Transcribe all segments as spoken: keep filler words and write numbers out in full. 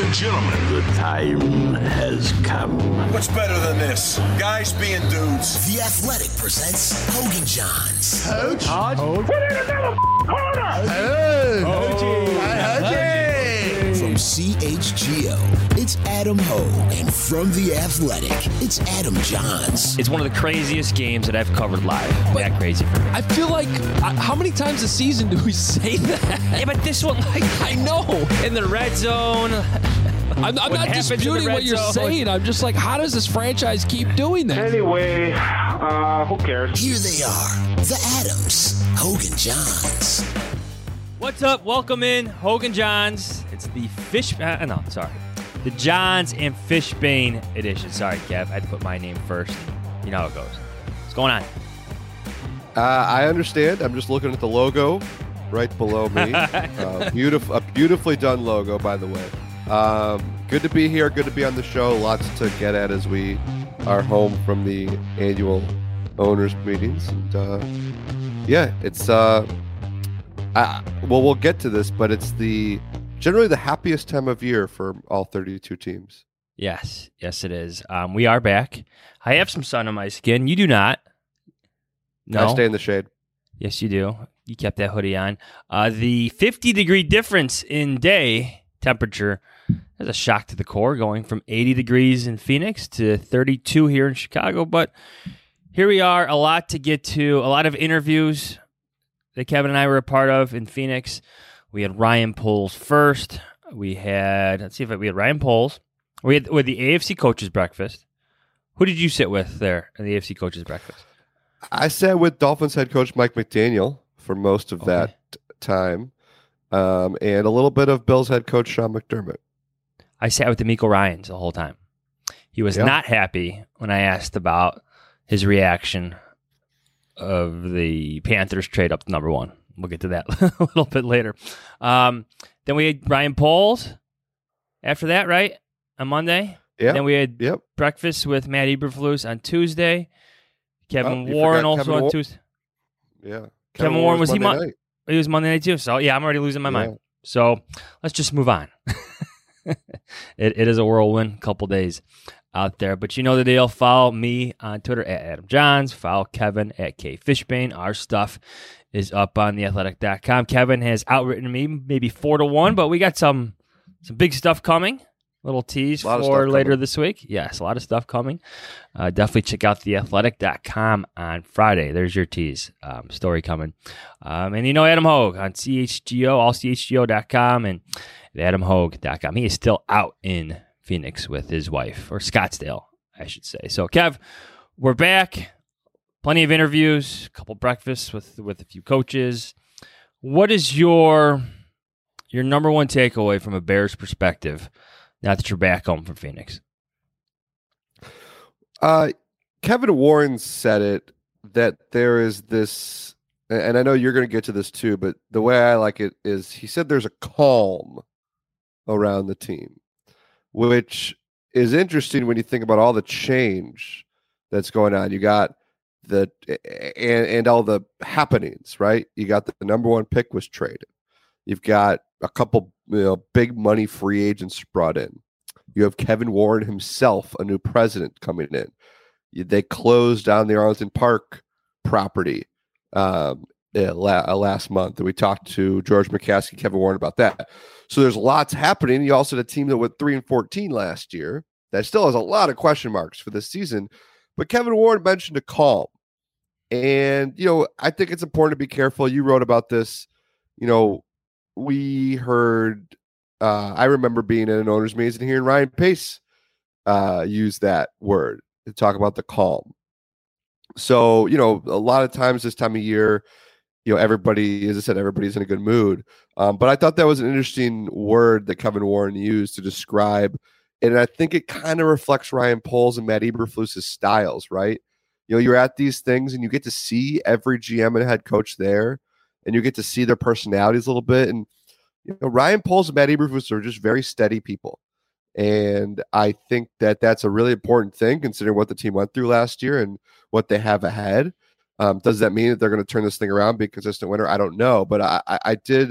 and gentlemen, the time has come. What's better than this? Guys being dudes. The Athletic presents Hogan Johns. Coach? Hodge? Put in another corner! Hey! Hey! From C H G O, it's Adam Hogue. And from The Athletic, it's Adam Johns. It's one of the craziest games that I've covered live. But that crazy for me. I feel like, uh, how many times a season do we say that? Yeah, but this one, like, I know. In the red zone. I'm, I'm not disputing what you're zone. saying. I'm just like, how does this franchise keep doing that? Anyway, uh, who cares? Here they are, the Adams, Hogan Johns. What's up? Welcome in, Hogan Johns. It's the fish. Uh, no, sorry, the Johns and Fishbane edition. Sorry, Kev. I had to put my name first. You know how it goes. What's going on? Uh, I understand. I'm just looking at the logo right below me. uh, beautiful, a beautifully done logo, by the way. Um, good to be here. Good to be on the show. Lots to get at as we are home from the annual owners meetings. And uh, yeah, it's uh, I, well, we'll get to this, but it's the generally the happiest time of year for all thirty-two teams. Yes, yes, it is. Um, we are back. I have some sun on my skin. You do not. No, I stay in the shade. Yes, you do. You kept that hoodie on. Uh, the fifty degree difference in day temperature is a shock to the core, going from eighty degrees in Phoenix to thirty-two here in Chicago. But here we are, a lot to get to, a lot of interviews that Kevin and I were a part of in Phoenix. We had Ryan Poles first. We had, let's see if I, we had Ryan Poles. We had with the A F C Coaches Breakfast. Who did you sit with there in the A F C Coaches Breakfast? I sat with Dolphins head coach Mike McDaniel for most of Okay. that time, um, and a little bit of Bills head coach Sean McDermott. I sat with D'Amico Ryans the whole time. He was Yeah. not happy when I asked about his reaction of the Panthers trade up to number one. We'll get to that a little bit later. Um, then we had Ryan Poles after that, right? On Monday. Yeah. Then we had Yep. breakfast with Matt Eberflus on Tuesday. Kevin Oh, you Warren forgot also Kevin on Wa- Tuesday. Yeah. Kevin Warren, was he Monday Mon- night. He was Monday night too. So yeah, I'm already losing my Yeah. mind. So let's just move on. it, it is a whirlwind couple days out there. But you know the deal. Follow me on Twitter at Adam Johns. Follow Kevin at K Fishbane. Our stuff is up on the athletic dot com. Kevin has outwritten me maybe four to one, but we got some some big stuff coming. Little tease A lot of for stuff later coming. this week. Yes, a lot of stuff coming. Uh, definitely check out the athletic dot com on Friday. There's your tease. Um, story coming. Um, and you know Adam Hogue on C H G O, all C H G O dot com and at adam hogue dot com. He is still out in Phoenix with his wife, or Scottsdale, I should say. So, Kev, we're back. Plenty of interviews, a couple breakfasts with, with a few coaches. What is your your number one takeaway from a Bears perspective now that you're back home from Phoenix? Uh, Kevin Warren said it, that there is this, and I know you're going to get to this too, but the way I like it is he said there's a calm around the team, which is interesting when you think about all the change that's going on. You got the, and, and all the happenings, right? You got the, the number one pick was traded. You've got a couple, you know, big money free agents brought in. You have Kevin Warren himself, a new president coming in. They closed down the Arlington Park property um, uh, la- uh, last month. And we talked to George McCaskey, Kevin Warren about that. So there's lots happening. You also had a team that went three and fourteen last year that still has a lot of question marks for this season. But Kevin Warren mentioned a calm. And, you know, I think it's important to be careful. You wrote about this. You know, we heard, uh, I remember being in an owner's meeting and hearing Ryan Pace uh, use that word to talk about the calm. So, you know, a lot of times this time of year, you know, everybody, as I said, everybody's in a good mood. Um, but I thought that was an interesting word that Kevin Warren used to describe. And I think it kind of reflects Ryan Poles and Matt Eberflus's styles, right? You know, you're at these things and you get to see every G M and head coach there, and you get to see their personalities a little bit. And, you know, Ryan Poles and Matt Eberflus are just very steady people. And I think that that's a really important thing considering what the team went through last year and what they have ahead. Um, does that mean that they're going to turn this thing around, be a consistent winner? I don't know. But I, I, I did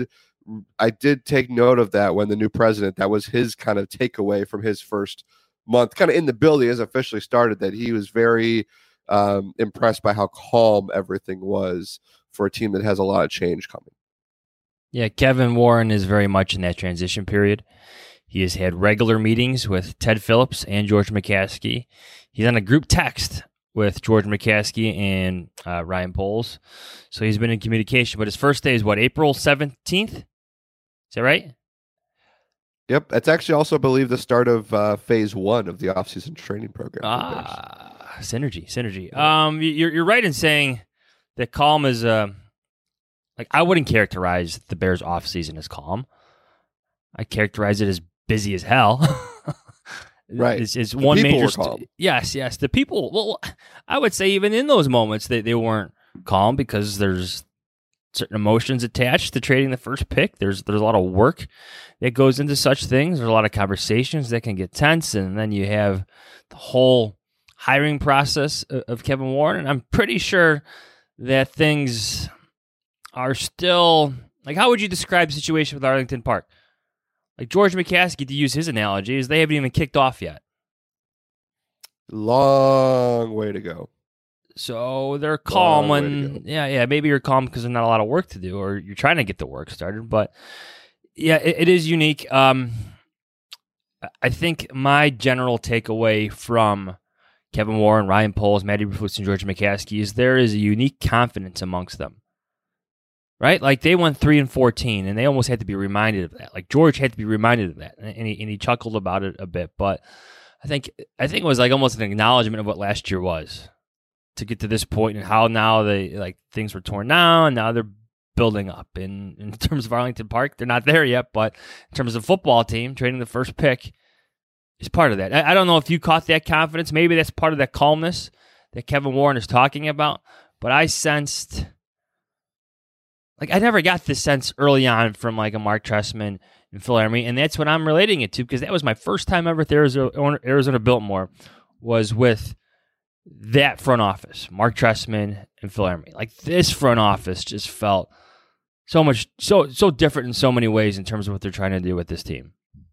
I did take note of that when the new president, that was his kind of takeaway from his first month, kind of in the building as officially started, that he was very um, impressed by how calm everything was for a team that has a lot of change coming. Yeah, Kevin Warren is very much in that transition period. He has had regular meetings with Ted Phillips and George McCaskey. He's on a group text with George McCaskey and uh, Ryan Poles. So he's been in communication. But his first day is what, April seventeenth? Is that right? Yep. That's actually also, I believe, the start of uh, phase one of the offseason training program. Ah, synergy, synergy. Um, you're, you're right in saying that calm is, uh, like, I wouldn't characterize the Bears offseason as calm. I characterize it as busy as hell. Right. It's, it's the one people major. Were calm. St- yes, yes. The people, well, I would say even in those moments, they, they weren't calm because there's certain emotions attached to trading the first pick. There's there's a lot of work that goes into such things. There's a lot of conversations that can get tense. And then you have the whole hiring process of, of Kevin Warren. And I'm pretty sure that things are still, like, how would you describe the situation with Arlington Park? Like George McCaskey, to use his analogy, is they haven't even kicked off yet. Long way to go. So they're calm Long when, yeah, yeah, maybe you're calm because there's not a lot of work to do, or you're trying to get the work started. But yeah, it, it is unique. Um, I think my general takeaway from Kevin Warren, Ryan Poles, Matty Eberflus, and George McCaskey is there is a unique confidence amongst them. Right? Like they went three and fourteen, and they almost had to be reminded of that. Like George had to be reminded of that, and he, and he chuckled about it a bit. But I think I think it was like almost an acknowledgement of what last year was to get to this point, and how now they like things were torn down, and now they're building up. In in terms of Arlington Park, they're not there yet, but in terms of football team, trading the first pick is part of that. I, I don't know if you caught that confidence. Maybe that's part of that calmness that Kevin Warren is talking about. But I sensed. Like, I never got this sense early on from, like, a Mark Trestman and Phil Emery, and that's what I'm relating it to, because that was my first time ever at the Arizona, Arizona Biltmore, was with that front office, Mark Trestman and Phil Emery. Like, this front office just felt so much, so so different in so many ways in terms of what they're trying to do with this team.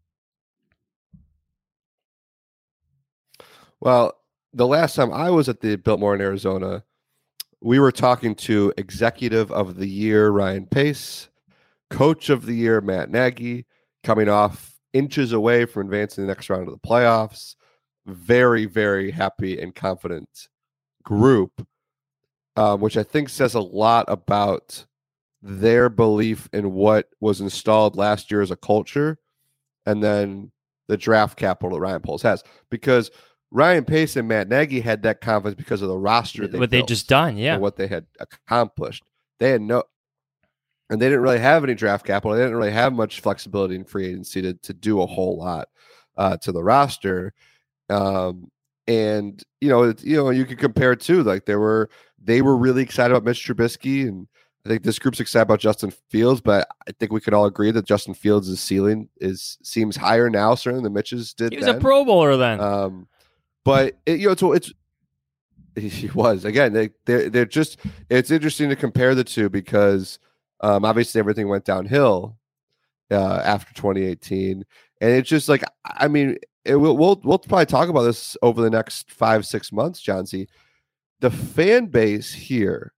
Well, the last time I was at the Biltmore in Arizona, we were talking to Executive of the Year Ryan Pace, Coach of the Year Matt Nagy, coming off inches away from advancing the next round of the playoffs. Very, very happy and confident group, um, which I think says a lot about their belief in what was installed last year as a culture, and then the draft capital that Ryan Poles has. Because Ryan Pace and Matt Nagy had that confidence because of the roster they what they just done, yeah, and what they had accomplished. They had no, and they didn't really have any draft capital. They didn't really have much flexibility in free agency to to do a whole lot uh, to the roster. Um, and you know, it, you know, you could compare it to, like, they were they were really excited about Mitch Trubisky, and I think this group's excited about Justin Fields. But I think we could all agree that Justin Fields' ceiling is seems higher now, certainly than Mitch's did. He was then. a Pro Bowler then. Um, But it, you know, so it's he was again. They they're, they're just. It's interesting to compare the two because um, obviously everything went downhill uh, after twenty eighteen, and it's just like, I mean, it will, we'll we'll probably talk about this over the next five six months, John C. The fan base here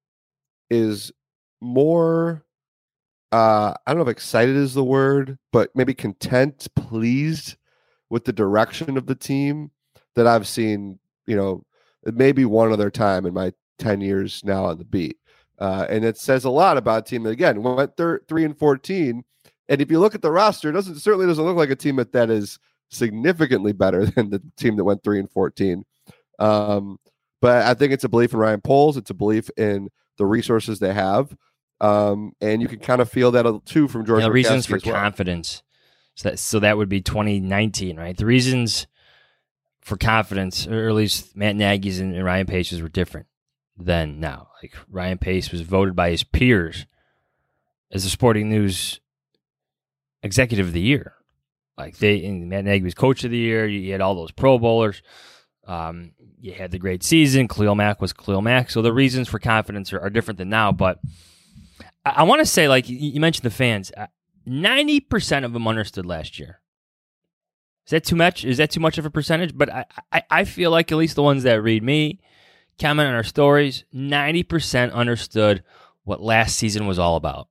is more. Uh, I don't know if excited is the word, but maybe content, pleased with the direction of the team that I've seen, you know, maybe one other time in my ten years now on the beat. Uh, and it says a lot about a team that, again, went thir- three and fourteen. And if you look at the roster, it doesn't certainly doesn't look like a team that, that is significantly better than the team that went three and fourteen. Um, but I think it's a belief in Ryan Poles. It's a belief in the resources they have. Um, and you can kind of feel that too from George. Yeah, reasons for well. confidence. So that, so that would be twenty nineteen, right? The reasons for confidence, or at least Matt Nagy's and, and Ryan Pace's, were different than now. Like, Ryan Pace was voted by his peers as the Sporting News Executive of the Year. Like, they, and Matt Nagy was Coach of the Year. You, you had all those Pro Bowlers. Um, you had the great season. Khalil Mack was Khalil Mack. So the reasons for confidence are, are different than now. But I, I want to say, like, you, you mentioned the fans. I, ninety percent of them understood last year. Is that too much? Is that too much of a percentage? But I, I, I feel like at least the ones that read me, comment on our stories, ninety percent understood what last season was all about.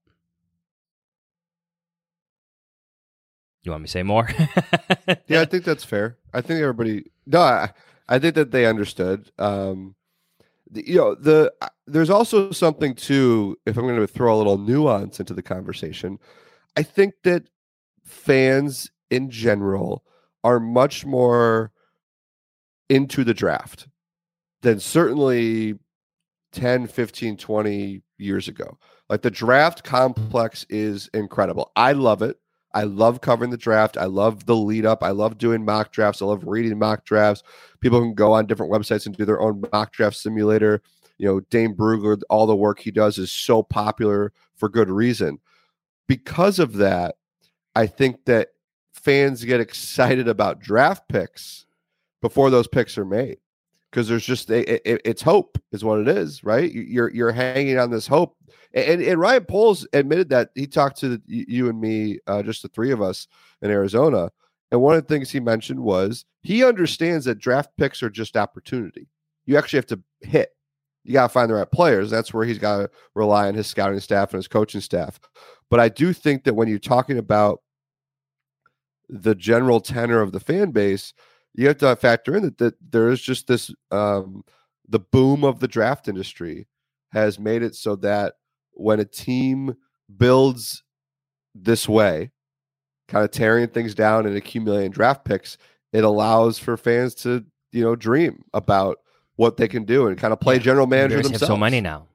You want me to say more? Yeah, I think that's fair. I think everybody. No, I, I think that they understood. Um, the, you know, the there's also something too. If I'm going to throw a little nuance into the conversation, I think that fans in general are much more into the draft than certainly ten, fifteen, twenty years ago. Like the draft complex is incredible. I love it. I love covering the draft. I love the lead up. I love doing mock drafts. I love reading mock drafts. People can go on different websites and do their own mock draft simulator. You know, Dane Brugler, all the work he does is so popular for good reason. Because of that, I think that fans get excited about draft picks before those picks are made. Because there's just a, it, it's hope is what it is, right? You're you're hanging on this hope, and and Ryan Poles admitted that he talked to you and me, uh, just the three of us in Arizona, and one of the things he mentioned was he understands that draft picks are just opportunity. You actually have to hit. You got to find the right players. That's where he's got to rely on his scouting staff and his coaching staff. But I do think that when you're talking about the general tenor of the fan base, you have to factor in that, that there is just this, um, the boom of the draft industry has made it so that when a team builds this way, kind of tearing things down and accumulating draft picks, it allows for fans to, you know, dream about what they can do and kind of play Yeah, general manager Bears themselves. have so many now.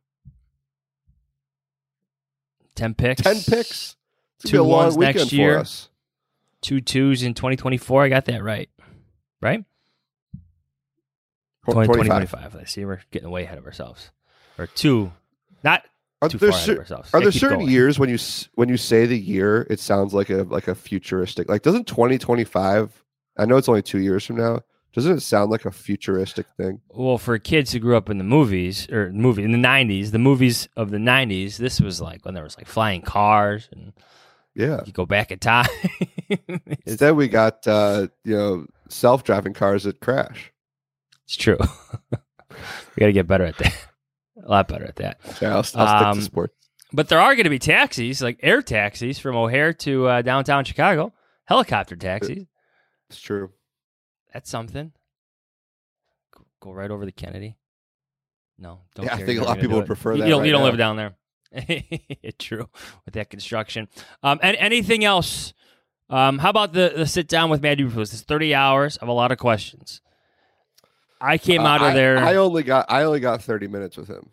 Ten picks. Ten picks. It's Two gonna be a long ones weekend next for year. us. Two twos in twenty twenty-four. I got that right. Right? twenty twenty-five. I see we're getting way ahead of ourselves. Or two, not Are too there, far ahead cer- of ourselves. are Yeah, there keep certain going. years when you s- when you say the year, it sounds like a like a futuristic? Like, doesn't twenty twenty-five? I know it's only two years from now. Doesn't it sound like a futuristic thing? Well, for kids who grew up in the movies or movie in the nineties, the movies of the nineties, this was like when there was like flying cars and Yeah. you go back in time. Instead, we got uh, you know self-driving cars that crash. It's true. We got to get better at that. A lot better at that. Yeah, I'll, I'll stick Um, to sports. But there are going to be taxis, like air taxis from O'Hare to uh, downtown Chicago, helicopter taxis. It's true. That's something. Go, go right over the Kennedy. No, don't. Yeah, I care. think You're a lot gonna of people do would it. prefer You, that you don't, right you don't now. live down there. True, with that construction. Um, and anything else? Um, how about the the sit down with Matt Eberflus? It's thirty hours of a lot of questions. I came out Uh, of I- there. I only got I only got thirty minutes with him.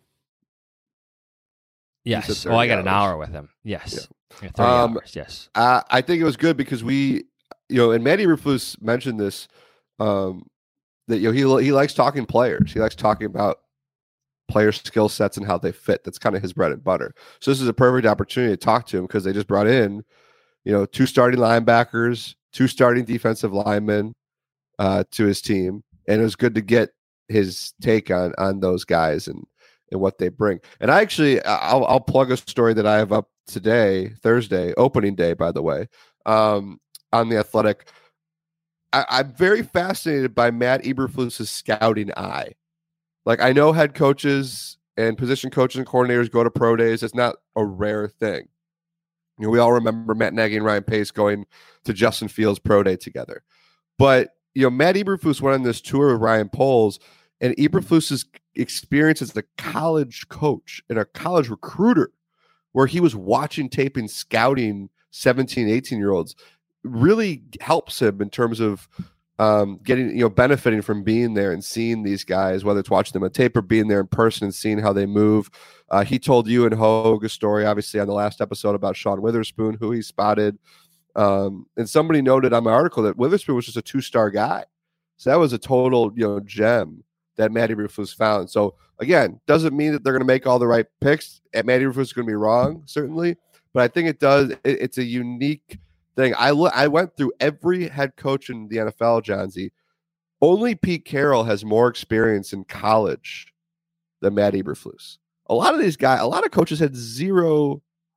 yes. said Oh, I thirty got an hours. hour with him. Yes. Yeah, thirty Um, hours. Yes. Uh, I think it was good because we, you know, and Matt Eberflus mentioned this, um, that you know he he likes talking players. He likes talking about player skill sets and how they fit. That's kind of his bread and butter. So this is a perfect opportunity to talk to him because they just brought in, you know, two starting linebackers, two starting defensive linemen uh, to his team, and it was good to get his take on on those guys and and what they bring. And I actually, I'll I'll plug a story that I have up today, Thursday, opening day, by the way, um, on The Athletic. I, I'm very fascinated by Matt Eberflus's scouting eye. Like, I know head coaches and position coaches and coordinators go to pro days. It's not a rare thing. You know, we all remember Matt Nagy and Ryan Pace going to Justin Fields' pro day together. But, you know, Matt Eberflus went on this tour with Ryan Poles, and Eberflus's experience as a college coach and a college recruiter, where he was watching tape and scouting seventeen, eighteen-year-olds, really helps him in terms of um, getting, you know, benefiting from being there and seeing these guys, whether it's watching them on tape or being there in person and seeing how they move. Uh, he told you and Hogue a story, obviously, on the last episode about Sean Witherspoon, who he spotted. Um, and somebody noted on my article that Witherspoon was just a two-star guy. So that was a total, you know, gem that Matt Eberflus found. So again, doesn't mean that they're going to make all the right picks. And Matt Eberflus is going to be wrong, certainly, but I think it does. It, it's a unique thing. I lo- I went through every head coach in the N F L, Johnsy. Only Pete Carroll has more experience in college than Matt Eberflus. A lot of these guys, a lot of coaches had zero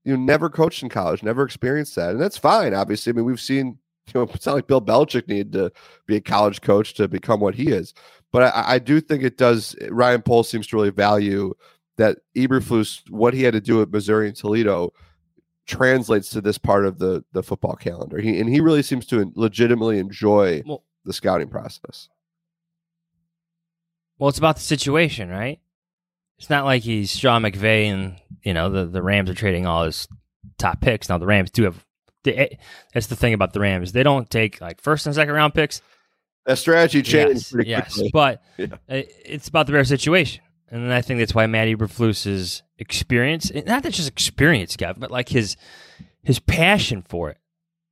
you know, never coached in college, never experienced that, and that's fine. Obviously, I mean, we've seen, you know, it's not like Bill Belichick needed to be a college coach to become what he is, but I, I do think it does. Ryan Poles seems to really value that Eberflus, what he had to do at Missouri and Toledo, translates to this part of the the football calendar. He and he really seems to legitimately enjoy Well, the scouting process. Well, it's about the situation, right? It's not like he's Sean McVay and, you know, the, the Rams are trading all his top picks. Now, the Rams do have they, – that's the thing about the Rams. They don't take, like, first and second round picks. That strategy changed Yes, pretty yes. quickly. But Yeah. it's about the Bears situation. And I think that's why Matt Eberflus's experience – not that just experience, Kev, but, like, his his passion for it.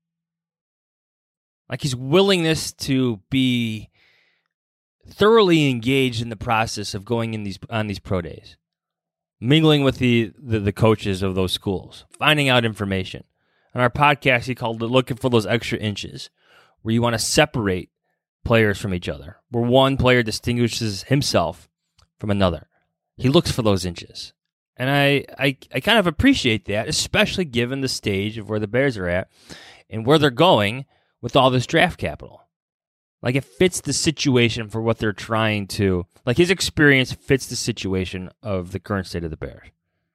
Like, his willingness to be – thoroughly engaged in the process of going in these on these pro days, mingling with the, the the coaches of those schools, finding out information. On our podcast, he called it looking for those extra inches, where you want to separate players from each other, where one player distinguishes himself from another. He looks for those inches. And I, I, I kind of appreciate that, especially given the stage of where the Bears are at and where they're going with all this draft capital. Like, it fits the situation for what they're trying to... Like, his experience fits the situation of the current state of the Bears.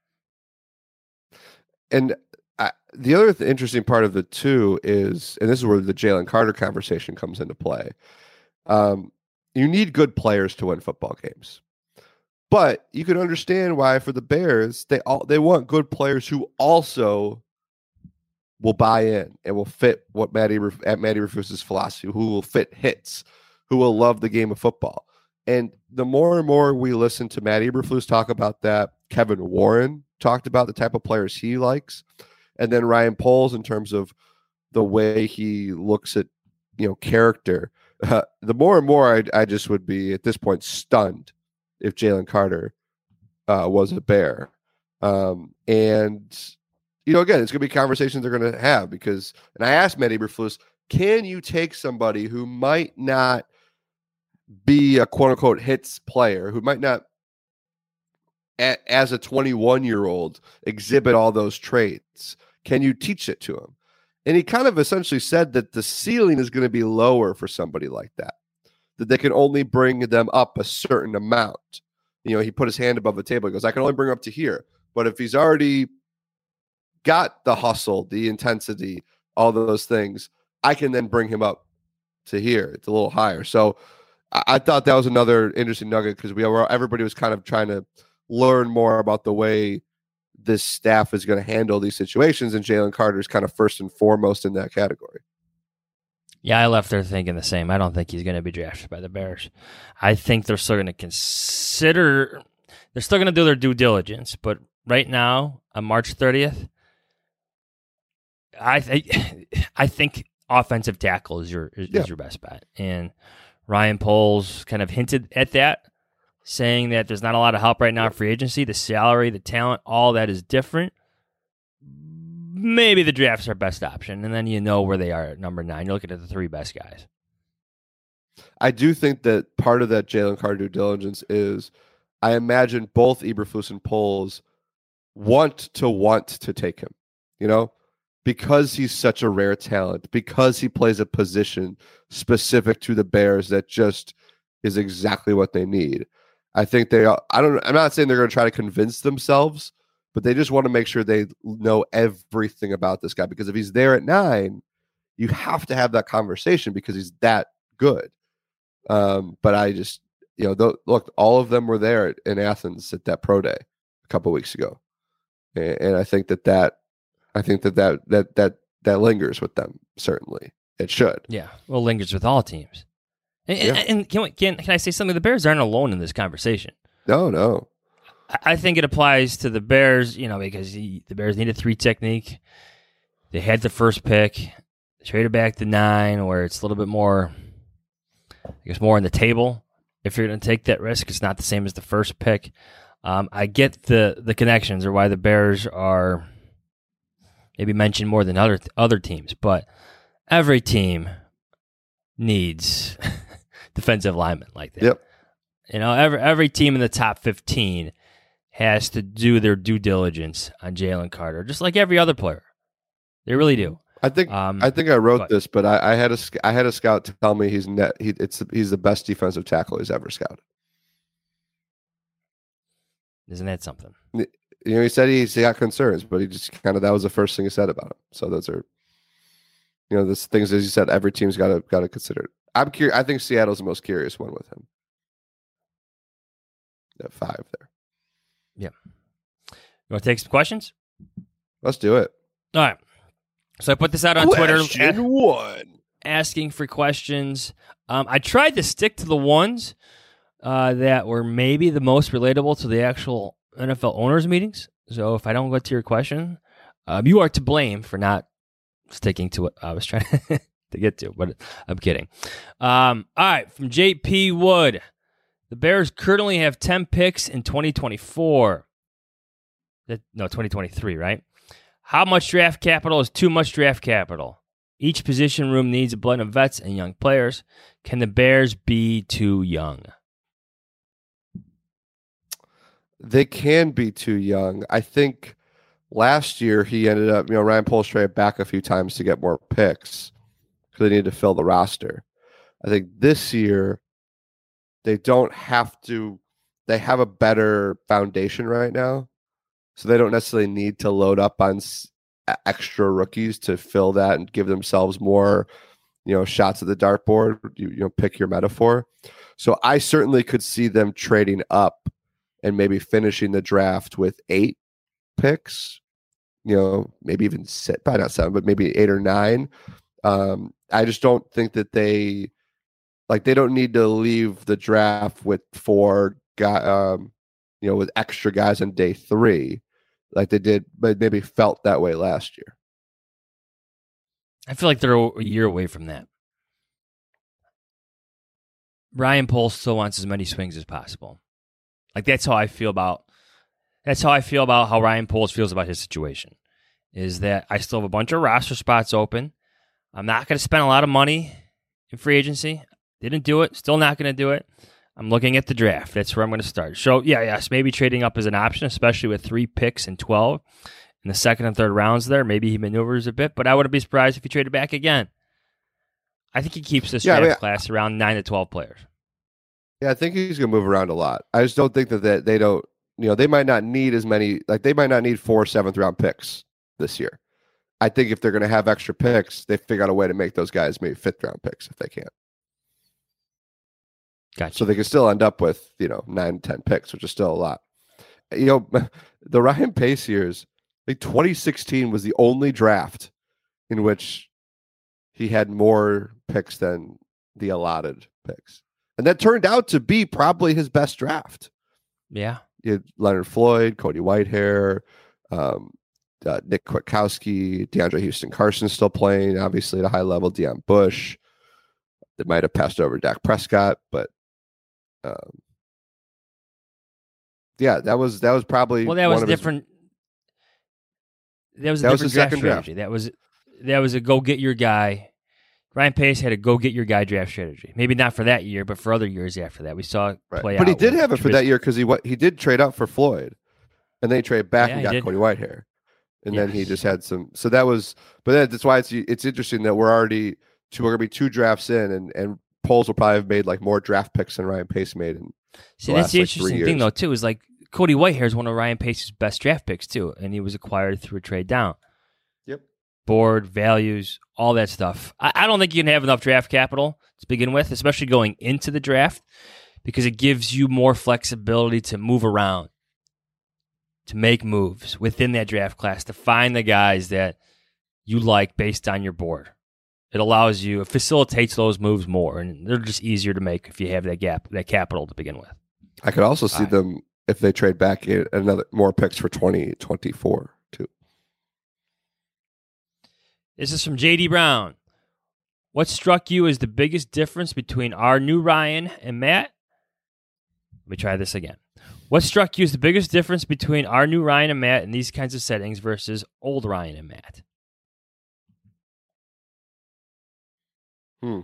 And I, the other th- interesting part of the two is, and this is where the Jalen Carter conversation comes into play, um, you need good players to win football games. But you can understand why, for the Bears, they all they want good players who also will buy in and will fit what Matt Eberf- at Matt Eberflus's philosophy, who will fit hits, who will love the game of football. And the more and more we listen to Matt Eberflus talk about that, Kevin Warren talked about the type of players he likes, and then Ryan Poles in terms of the way he looks at, you know, character. Uh, the more and more I, I just would be at this point stunned if Jalen Carter uh, was a Bear. Um, and You know, again, it's going to be conversations they're going to have because, and I asked Matt Eberflus, can you take somebody who might not be a quote unquote hits player, who might not, a, as a twenty-one year old, exhibit all those traits? Can you teach it to him? And he kind of essentially said that the ceiling is going to be lower for somebody like that, that they can only bring them up a certain amount. You know, he put his hand above the table. He goes, I can only bring him up to here. But if he's already got the hustle, the intensity, all those things, I can then bring him up to here. It's a little higher. So I, I thought that was another interesting nugget because we were, everybody was kind of trying to learn more about the way this staff is going to handle these situations, and Jalen Carter is kind of first and foremost in that category. Yeah, I left there thinking the same. I don't think he's going to be drafted by the Bears. I think they're still going to consider, they're still going to do their due diligence, but right now, on March thirtieth, I th- I think offensive tackle is your is, yeah. is your best bet. And Ryan Poles kind of hinted at that, saying that there's not a lot of help right now in free agency. The salary, the talent, all that is different. Maybe the draft's our best option, and then you know where they are at number nine. You're looking at the three best guys. I do think that part of that Jalen Carter due diligence is, I imagine both Eberflus and Poles want to want to take him, you know, because he's such a rare talent, because he plays a position specific to the Bears that just is exactly what they need. I think they are, I don't, I'm not saying they're going to try to convince themselves, but they just want to make sure they know everything about this guy, because if he's there at nine, you have to have that conversation because he's that good. Um, but I just, you know, th- look, all of them were there at, in Athens at that pro day a couple weeks ago. And, and I think that that, I think that that, that, that, that lingers with them. Certainly it should. Yeah. Well, lingers with all teams. And, Yeah. and, and can, we, can, can I say something? The Bears aren't alone in this conversation. No, no. I think it applies to the Bears, you know, because he, the Bears need a three technique. They had the first pick, traded back to nine, where it's a little bit more, I guess, more on the table. If you're going to take that risk, it's not the same as the first pick. Um, I get the the connections or why the Bears are maybe mentioned more than other other teams, but every team needs defensive linemen like that. Yep. You know, every every team in the top fifteen has to do their due diligence on Jalen Carter, just like every other player. They really do. I think Um, I think I wrote this, but I, I had a sc- I had a scout to tell me he's net he it's he's the best defensive tackle he's ever scouted. Isn't that something? You know, he said he's he got concerns, but he just kind of that was the first thing he said about him. So those are, you know, those things as you said, every team's got to got to consider it. I'm curious. I think Seattle's the most curious one with him. At five there. Yeah. You want to take some questions? Let's do it. All right. So I put this out on Question Twitter. one. Asking for questions. Um, I tried to stick to the ones uh, that were maybe the most relatable to the actual N F L owners meetings. So if I don't go to your question, um, you are to blame for not sticking to what I was trying to get to, but I'm kidding. Um, all right, from J P Wood. The Bears currently have ten picks in twenty twenty-four. That, no, twenty twenty-three, right? How much draft capital is too much draft capital? Each position room needs a blend of vets and young players. Can the Bears be too young? They can be too young. I think last year he ended up, you know, Ryan Poles traded back a few times to get more picks because they needed to fill the roster. I think this year they don't have to, they have a better foundation right now. So they don't necessarily need to load up on s- extra rookies to fill that and give themselves more, you know, shots at the dartboard. You, you know, pick your metaphor. So I certainly could see them trading up and maybe finishing the draft with eight picks, you know, maybe even sit, probably not seven, but maybe eight or nine. Um, I just don't think that they, like, they don't need to leave the draft with four guy, um, you know, with extra guys on day three, like they did, but maybe felt that way last year. I feel like they're a year away from that. Ryan Poles still wants as many swings as possible. Like, that's how I feel about that's how I feel about how Ryan Poles feels about his situation. Is that I still have a bunch of roster spots open. I'm not going to spend a lot of money in free agency. Didn't do it. Still not going to do it. I'm looking at the draft. That's where I'm going to start. So, yeah, yes, maybe trading up is an option, especially with three picks and twelve in the second and third rounds there. Maybe he maneuvers a bit, but I wouldn't be surprised if he traded back again. I think he keeps this Yeah, draft I mean, class around nine to twelve players. Yeah, I think he's going to move around a lot. I just don't think that they, they don't, you know, they might not need as many, like they might not need four seventh round picks this year. I think if they're going to have extra picks, they figure out a way to make those guys maybe fifth round picks if they can. Gotcha. So they can still end up with, you know, nine, ten picks, which is still a lot. You know, the Ryan Pace years, like twenty sixteen was the only draft in which he had more picks than the allotted picks. And that turned out to be probably his best draft. Yeah. You had Leonard Floyd, Cody Whitehair, um, uh, Nick Kwiatkowski, DeAndre Houston Carson still playing, obviously at a high level, Deion Bush. They might have passed over Dak Prescott, but um, yeah, that was that was probably Well, that was one of his- different. That was a That was different his draft second draft. strategy. That was that was a go get your guy. Ryan Pace had a go get your guy draft strategy. Maybe not for that year, but for other years after that, we saw it Right. play out. But he did with have it for Tris- that year because he wa- he did trade up for Floyd, and then he traded back Yeah, and he got did. Cody Whitehair, and then he Yes. just had some. So that was, but that, that's why it's it's interesting that we're already two, we're gonna be two drafts in, and and Poles will probably have made like more draft picks than Ryan Pace made. In See, the that's last, the like, three interesting thing, years. though, too, is like Cody Whitehair is one of Ryan Pace's best draft picks, too, and he was acquired through a trade down. Yep. Board, values, all that stuff. I, I don't think you can have enough draft capital to begin with, especially going into the draft, because it gives you more flexibility to move around, to make moves within that draft class, to find the guys that you like based on your board. It allows you, it facilitates those moves more, and they're just easier to make if you have that gap, that capital to begin with. I could also see Alright. them if they trade back in another more picks for twenty twenty-four too. This is from J D Brown. What struck you as the biggest difference between our new Ryan and Matt? Let me try this again. What struck you as the biggest difference between our new Ryan and Matt in these kinds of settings versus old Ryan and Matt? Hmm.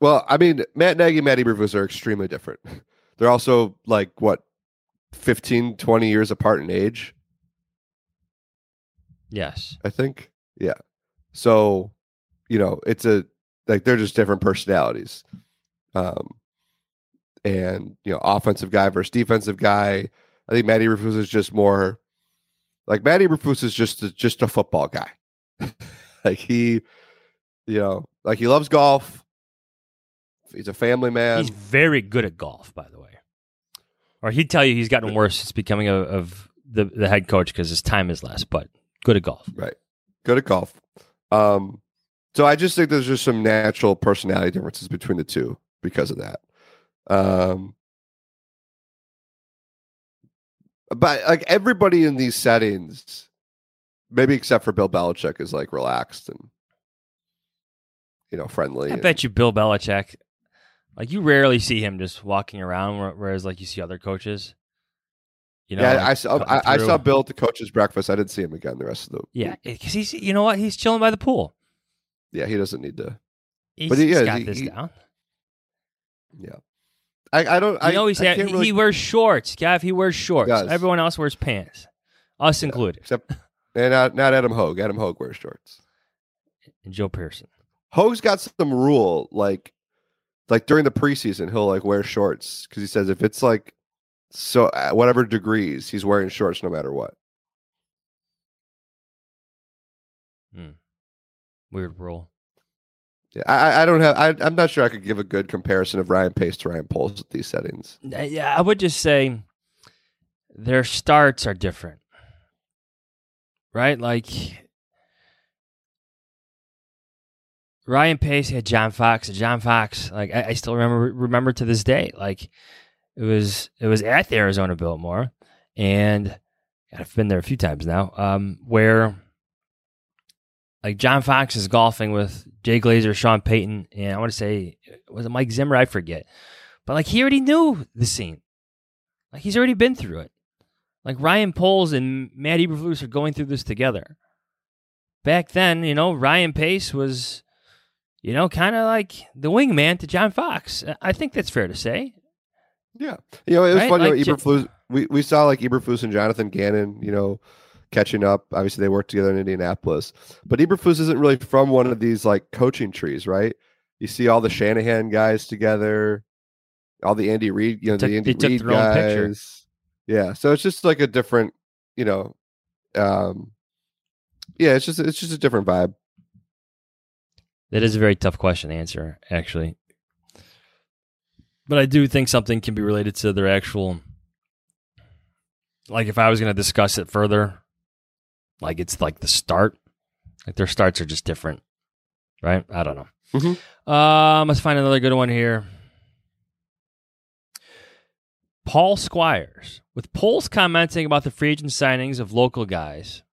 Well, I mean, Matt Nagy and Matt Eberflus are extremely different. They're also like, what, fifteen, twenty years apart in age? Yes. I think. Yeah. So, you know, it's a, like, they're just different personalities. Um, and, you know, offensive guy versus defensive guy. I think Matt Eberflus is just more, like, Matt Eberflus is just a, just a football guy. Like, he, you know, like, he loves golf. He's a family man. He's very good at golf, by the way. Or he'd tell you he's gotten worse since becoming a, of the, the head coach because his time is less, but good at golf. Right. Good at golf. Um, so I just think there's just some natural personality differences between the two because of that. Um, but like everybody in these settings, maybe except for Bill Belichick, is like relaxed and, you know, friendly. I and, bet you Bill Belichick, like you rarely see him just walking around, whereas like you see other coaches. You know, yeah, like, I saw I, I saw Bill at the coach's breakfast. I didn't see him again the rest of the yeah, week. because he's you know what he's chilling by the pool. Yeah, he doesn't need to. He's, But he he's is, got he- this he- down. Yeah, I, I don't. You I know he's I had, can't he, really, he wears shorts, Gav. He wears shorts. does. Everyone else wears pants, us included, except and not not Adam Hogue. Adam Hogue wears shorts. and Joe Pearson. Hogue's got some rule, like like during the preseason, he'll like wear shorts because he says if it's like so uh, whatever degrees, he's wearing shorts no matter what. Weird rule. Yeah, I, I don't have. I, I'm not sure I could give a good comparison of Ryan Pace to Ryan Poles at these settings. Uh, Yeah, I would just say their starts are different, right? Like Ryan Pace had John Fox. and John Fox, like I, I still remember remember to this day. Like it was it was at the Arizona Biltmore, and I've been there a few times now. Um, where like John Fox is golfing with Jay Glazer, Sean Payton, and I want to say was it Mike Zimmer? I forget, but like he already knew the scene. Like he's already been through it. Like Ryan Poles and Matt Eberflus are going through this together. Back then, you know, Ryan Pace was, you know, kind of like the wingman to John Fox. I think that's fair to say. Yeah, you know, it was Right? funny. Like, you know, J- Eberflus, we we saw like Eberflus and Jonathan Gannon, you know, catching up. Obviously, they worked together in Indianapolis, but Eberflus isn't really from one of these like coaching trees, right? You see all the Shanahan guys together, all the Andy Reid, you know, Took- the Andy they took Reid their own picture. guys. Yeah, so it's just like a different, you know, um, yeah, it's just it's just a different vibe. That is a very tough question to answer, actually. But I do think something can be related to their actual, like if I was going to discuss it further, like it's like the start, like their starts are just different, right? I don't know. Mhm. Um, let's find another good one here. Paul Squires, with polls commenting about the free agent signings of local guys.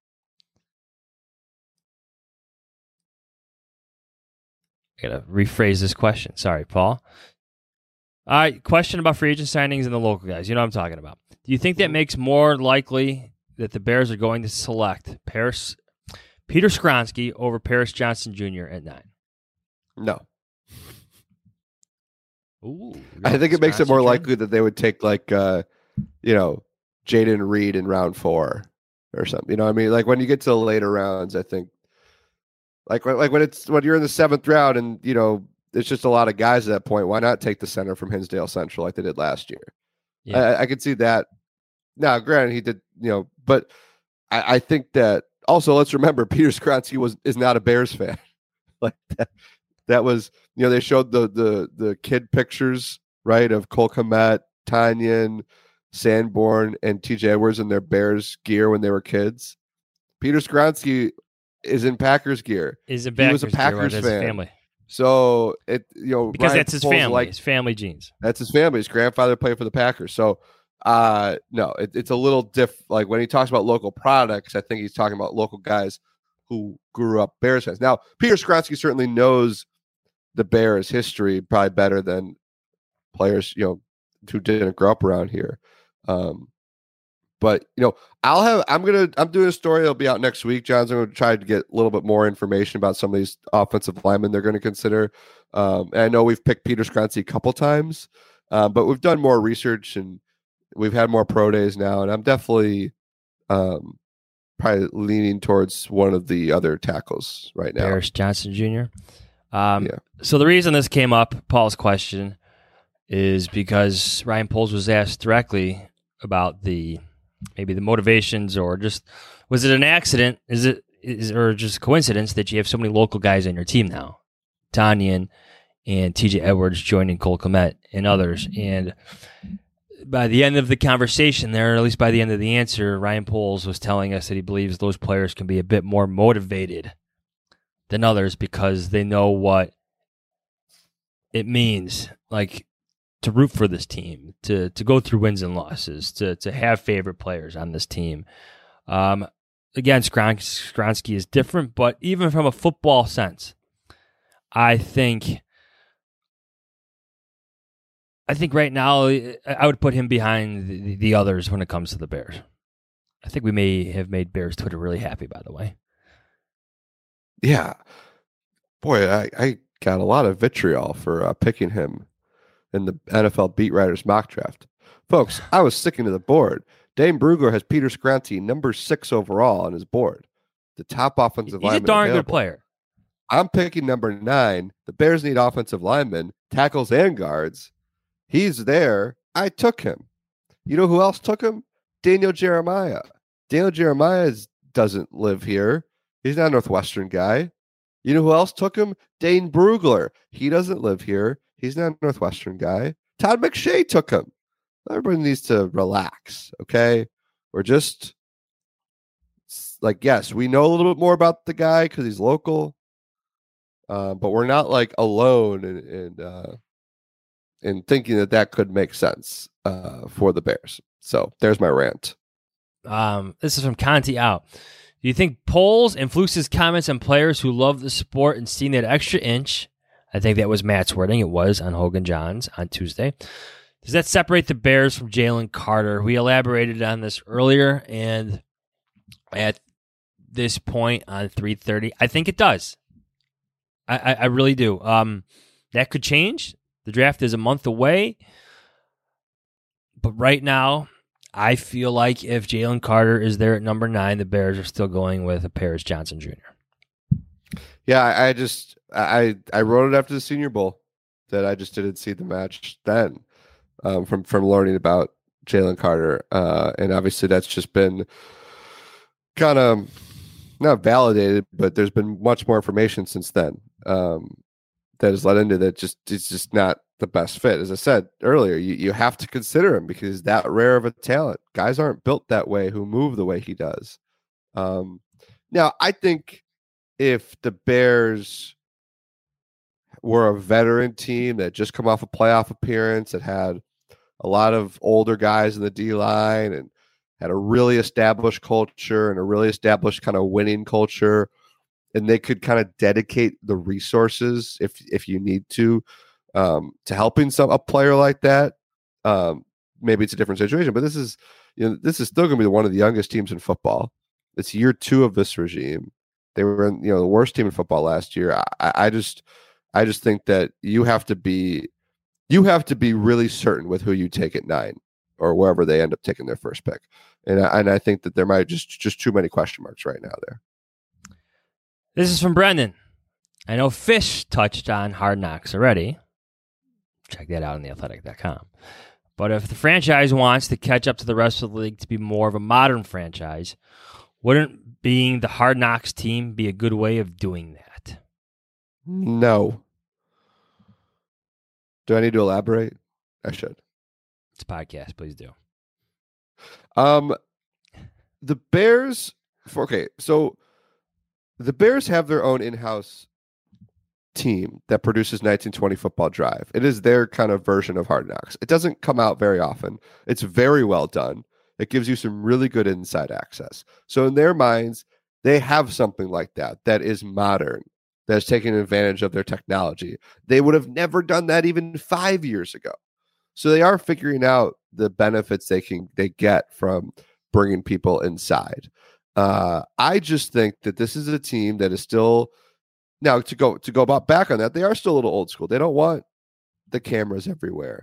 I gotta rephrase this question. Sorry, Paul. All right, question about free agent signings and the local guys. You know what I'm talking about. Do you think that makes more likely that the Bears are going to select Paris, Peter Skronsky over Paris Johnson Junior at nine? No, Ooh, I think it makes it Skronsky more train? likely that they would take like, uh, you know, Jaden Reed in round four or something. You know what I mean? Like when you get to the later rounds, I think like when, like when it's when you're in the seventh round and you know it's just a lot of guys at that point. Why not take the center from Hinsdale Central like they did last year? Yeah. I, I could see that. Now, granted, he did, you know, but I, I think that also let's remember Peter Skronsky was is not a Bears fan. Like that, that was, you know, they showed the the the kid pictures, right, of Cole Kmet, Tanyan, Sanborn, and T J Edwards in their Bears gear when they were kids. Peter Skronsky is in Packers gear. Is a he was a Packers gear, Packers his fan. family. So it, you know, Because Ryan that's his Poles family. Like, his family genes. that's his family. His grandfather played for the Packers. So, uh, no, it, it's a little diff. Like when he talks about local products, I think he's talking about local guys who grew up Bears fans. Now, Peter Skronsky certainly knows the Bears history probably better than players, you know, who didn't grow up around here. Um, but you know, I'll have. I'm gonna. I'm doing a story. It'll be out next week. John's going to try to get a little bit more information about some of these offensive linemen they're going to consider. Um, and I know we've picked Peter Skronsky a couple times, uh, but we've done more research and we've had more pro days now. And I'm definitely um, probably leaning towards one of the other tackles right now. Paris Johnson Junior Um, Yeah. So the reason this came up, Paul's question, is because Ryan Poles was asked directly about the maybe the motivations, or just was it an accident? Is it is or just coincidence that you have so many local guys on your team now? Tanyan and T J Edwards joining Cole Kmet and others. And by the end of the conversation there, or at least by the end of the answer, Ryan Poles was telling us that he believes those players can be a bit more motivated than others because they know what it means, like to root for this team, to to go through wins and losses, to to have favorite players on this team. Um, again, Skron- Skronsky is different, but even from a football sense, I think I think right now I would put him behind the, the others when it comes to the Bears. I think we may have made Bears Twitter really happy, by the way. Yeah. Boy, I, I got a lot of vitriol for uh, picking him in the N F L Beat Writers mock draft. Folks, I was sticking to the board. Dane Brugler has Peter Skronsky number six overall on his board. The top offensive lineman. He's a darn available. good player. I'm picking number nine. The Bears need offensive linemen, tackles, and guards. He's there. I took him. You know who else took him? Daniel Jeremiah. Daniel Jeremiah doesn't live here. He's not a Northwestern guy. You know who else took him? Dane Brugler. He doesn't live here. He's not a Northwestern guy. Todd McShay took him. Everybody needs to relax, okay? We're just like, yes, we know a little bit more about the guy because he's local, uh, but we're not like alone in in, uh, in thinking that that could make sense uh, for the Bears. So there's my rant. Um, this is from Conti out. Do you think Poles and Flukes' comments on players who love the sport and seeing that extra inch, I think that was Matt's wording, it was on Hogan Johns on Tuesday, does that separate the Bears from Jalen Carter? We elaborated on this earlier, and at this point on three thirty, I think it does. I, I, I really do. Um, that could change. The draft is a month away, but right now, I feel like if Jalen Carter is there at number nine, the Bears are still going with a Paris Johnson Junior Yeah, I, I just I I wrote it after the Senior Bowl that I just didn't see the match then um, from from learning about Jalen Carter, uh, and obviously that's just been kind of not validated, but there's been much more information since then um, that has led into that. Just it's just not the best fit. As I said earlier, you, you have to consider him because he's that rare of a talent. Guys aren't built that way who move the way he does. Um, now, I think if the Bears were a veteran team that just come off a playoff appearance, that had a lot of older guys in the D line and had a really established culture and a really established kind of winning culture, and they could kind of dedicate the resources if if you need to um, to helping some a player like that, um, maybe it's a different situation. But this is you know this is still going to be one of the youngest teams in football. It's year two of this regime. They were in, you know the worst team in football last year. I, I just I just think that you have to be you have to be really certain with who you take at nine or wherever they end up taking their first pick. And I, and I think that there might just just too many question marks right now there. This is from Brendan. I know Fish touched on Hard Knocks already. Check that out on the athletic dot com. But if the franchise wants to catch up to the rest of the league to be more of a modern franchise, wouldn't being the Hard Knocks team be a good way of doing that? No. Do I need to elaborate? I should. It's a podcast. Please do. Um, the Bears. Okay, so the Bears have their own in-house team that produces nineteen twenty Football Drive. It is their kind of version of Hard Knocks. It doesn't come out very often. It's very well done. It gives you some really good inside access. So in their minds, they have something like that that is modern, that's taking advantage of their technology. They would have never done that even five years ago. So they are figuring out the benefits they can they get from bringing people inside. Uh, I just think that this is a team that is still now to go to go about back on that. They are still a little old school. They don't want the cameras everywhere.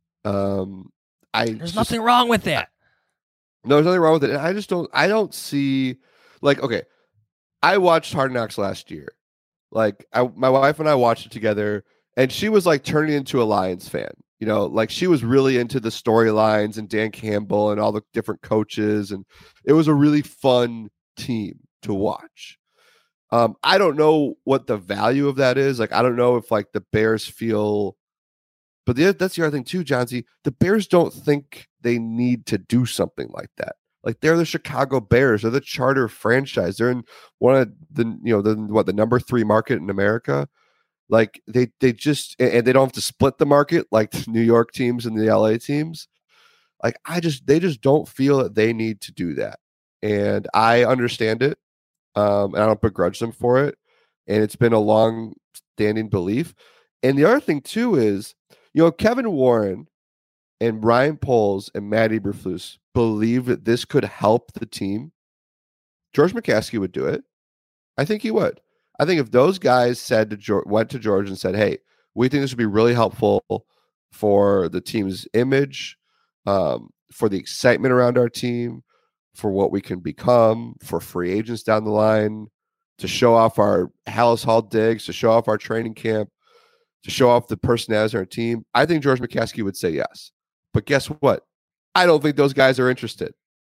Um, I There's just, nothing wrong with that. No, there's nothing wrong with it. And I just don't. I don't see like okay. I watched Hard Knocks last year. Like I, my wife and I watched it together, and she was like turning into a Lions fan. You know, like she was really into the storylines and Dan Campbell and all the different coaches, and it was a really fun team to watch. Um, I don't know what the value of that is. Like, I don't know if like the Bears feel, but the, that's the other thing too, John Z. The Bears don't think they need to do something like that. Like they're the Chicago Bears. They're the charter franchise. They're in one of the, you know, the what the number three market in America. Like they they just and they don't have to split the market like the New York teams and the L A teams. Like I just they just don't feel that they need to do that. And I understand it. Um, and I don't begrudge them for it. And it's been a long standing belief. And the other thing too is, you know, Kevin Warren and Ryan Poles and Matt Eberflus believe that this could help the team. George McCaskey would do it. I think he would. I think if those guys said to George, went to George and said, "Hey, we think this would be really helpful for the team's image, um, for the excitement around our team, for what we can become, for free agents down the line, to show off our Hallis Hall digs, to show off our training camp, to show off the personalities in our team," I think George McCaskey would say yes. But guess what? I don't think those guys are interested.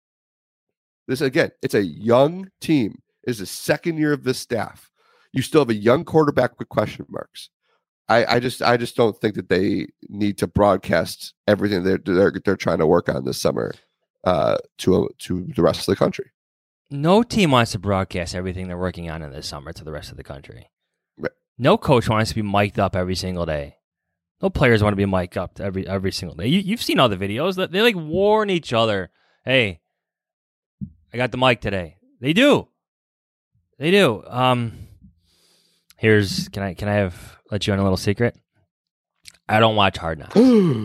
This again, it's a young team. It's the second year of this staff. You still have a young quarterback with question marks. I, I just, I just don't think that they need to broadcast everything they're they're, they're trying to work on this summer uh, to to the rest of the country. No team wants to broadcast everything they're working on in this summer to the rest of the country. Right. No coach wants to be mic'd up every single day. No players want to be mic'd up every every single day. You, you've seen all the videos that they like warn each other. Hey, I got the mic today. They do. They do. Um, here's can I can I have let you in a little secret? I don't watch Hard Knocks.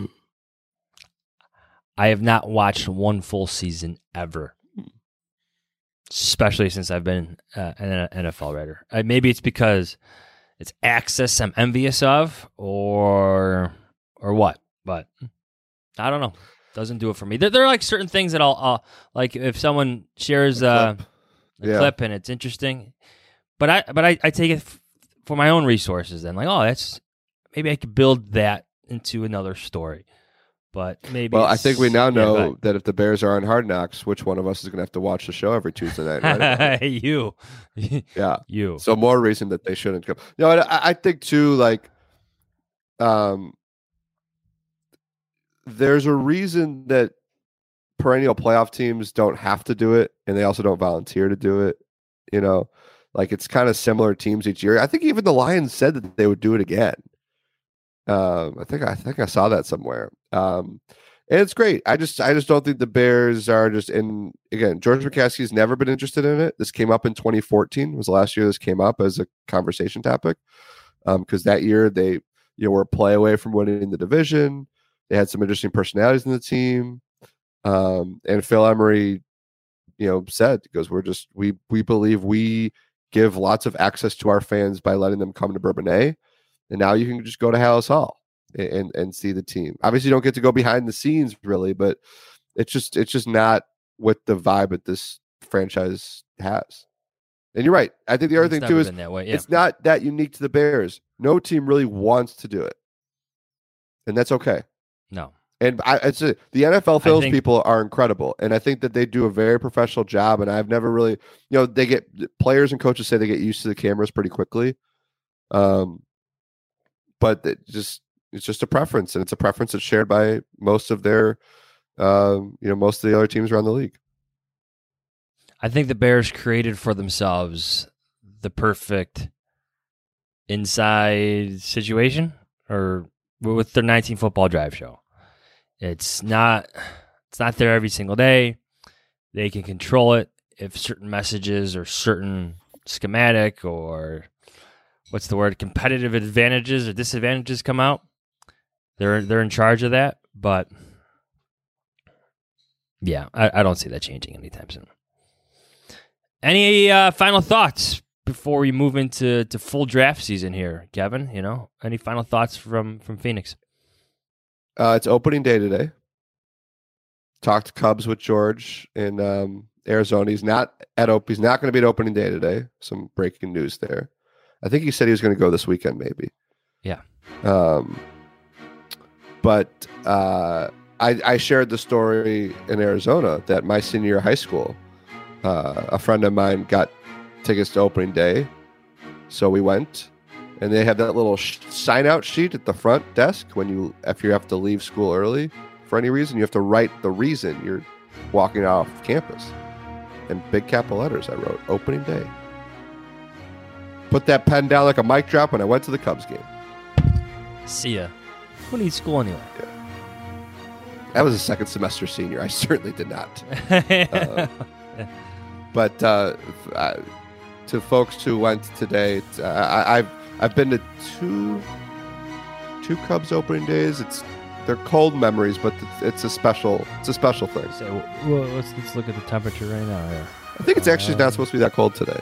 I have not watched one full season ever, especially since I've been uh, an N F L writer. Uh, maybe it's because it's access I'm envious of, or or what? But I don't know. Doesn't do it for me. There, there are like certain things that I'll, I'll like if someone shares uh, a Yeah. clip and it's interesting, but I but I, I take it f- for my own resources. Then like, oh, that's maybe I could build that into another story. But maybe Well, I it's- think we now yeah, go know ahead. that if the Bears are on Hard Knocks, which one of us is going to have to watch the show every Tuesday night? Right? you, Yeah. you. So more reason that they shouldn't come. No, I, I think too, like, um, there's a reason that perennial playoff teams don't have to do it, and they also don't volunteer to do it. You know, like it's kind of similar teams each year. I think even the Lions said that they would do it again. Um, I think I think I saw that somewhere. Um, and it's great. I just I just don't think the Bears are just in. Again, George McCaskey's never been interested in it. This came up in twenty fourteen. Was the last year this came up as a conversation topic. Um, because that year they you know were a play away from winning the division. They had some interesting personalities in the team. Um, and Phil Emery, you know, said because we're just we we believe we give lots of access to our fans by letting them come to Bourbonnais. And now you can just go to Hallis Hall and, and and see the team. Obviously, you don't get to go behind the scenes really, but it's just it's just not what the vibe that this franchise has. And you're right. I think the other It's thing never too is been that way, yeah. it's not that unique to the Bears. No team really wants to do it, and that's okay. No. And I, it's a, the N F L Phil's think- people are incredible, and I think that they do a very professional job. And I've never really, you know, they get players and coaches say they get used to the cameras pretty quickly. Um, but it just it's just a preference, and it's a preference that's shared by most of their, um, you know, most of the other teams around the league. I think the Bears created for themselves the perfect inside situation, or with their nineteen football drive show. It's not it's not there every single day. They can control it if certain messages or certain schematic or what's the word, competitive advantages or disadvantages come out. They're they're in charge of that, but Yeah, I, I don't see that changing anytime soon. Any uh, final thoughts before we move into to full draft season here, Kevin? You know, any final thoughts from from Phoenix? Uh, it's opening day today. Talked Cubs with George in um, Arizona. He's not at op- He's not going to be at opening day today. Some breaking news there. I think he said he was going to go this weekend, maybe. Yeah. Um, but uh, I, I shared the story in Arizona that my senior year of high school, uh, a friend of mine got tickets to opening day, so we went, and they have that little sh- sign out sheet at the front desk when you if you have to leave school early for any reason. You have to write the reason you're walking off campus, in big capital letters I wrote opening day. Put that pen down like a mic drop when I went to the Cubs game. See ya. Who needs school anyway? Yeah. That was a second semester senior. I certainly did not. uh, but uh, uh, to folks who went today, uh, I, I've I've been to two two Cubs opening days. It's they're cold memories, but it's, it's a special it's a special thing. So, well, let's let's look at the temperature right now here. I think it's actually Um, not supposed to be that cold today.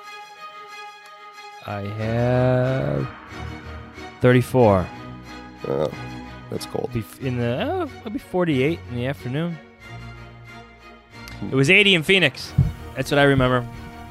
I have thirty-four. Oh, that's cold. Be f- in the oh, it'll be forty-eight in the afternoon. It was eighty in Phoenix. That's what I remember.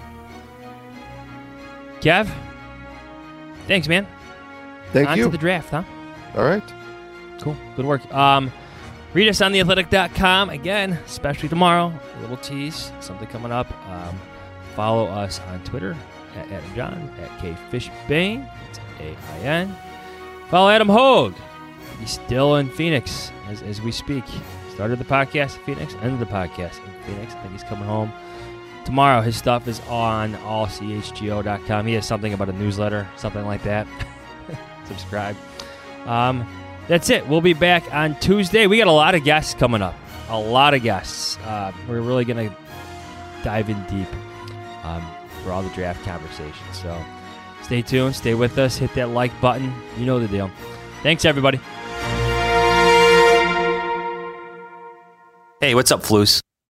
Kev, thanks, man. Thank On you. to the draft, huh? All right. Cool. Good work. Um, read us on the athletic dot com again, especially tomorrow. A little tease, something coming up. Um, follow us on Twitter at Adam John, at KFishBane. It's A I N. Follow Adam Hogue. He's still in Phoenix as, as we speak. Started the podcast in Phoenix, ended the podcast in Phoenix. I think he's coming home tomorrow. His stuff is on all c h g o dot com. He has something about a newsletter, something like that. Subscribe. Um, that's it. We'll be back on Tuesday. We got a lot of guests coming up. A lot of guests. Uh, we're really going to dive in deep um, for all the draft conversations. So stay tuned. Stay with us. Hit that like button. You know the deal. Thanks, everybody. Hey, what's up, Floos?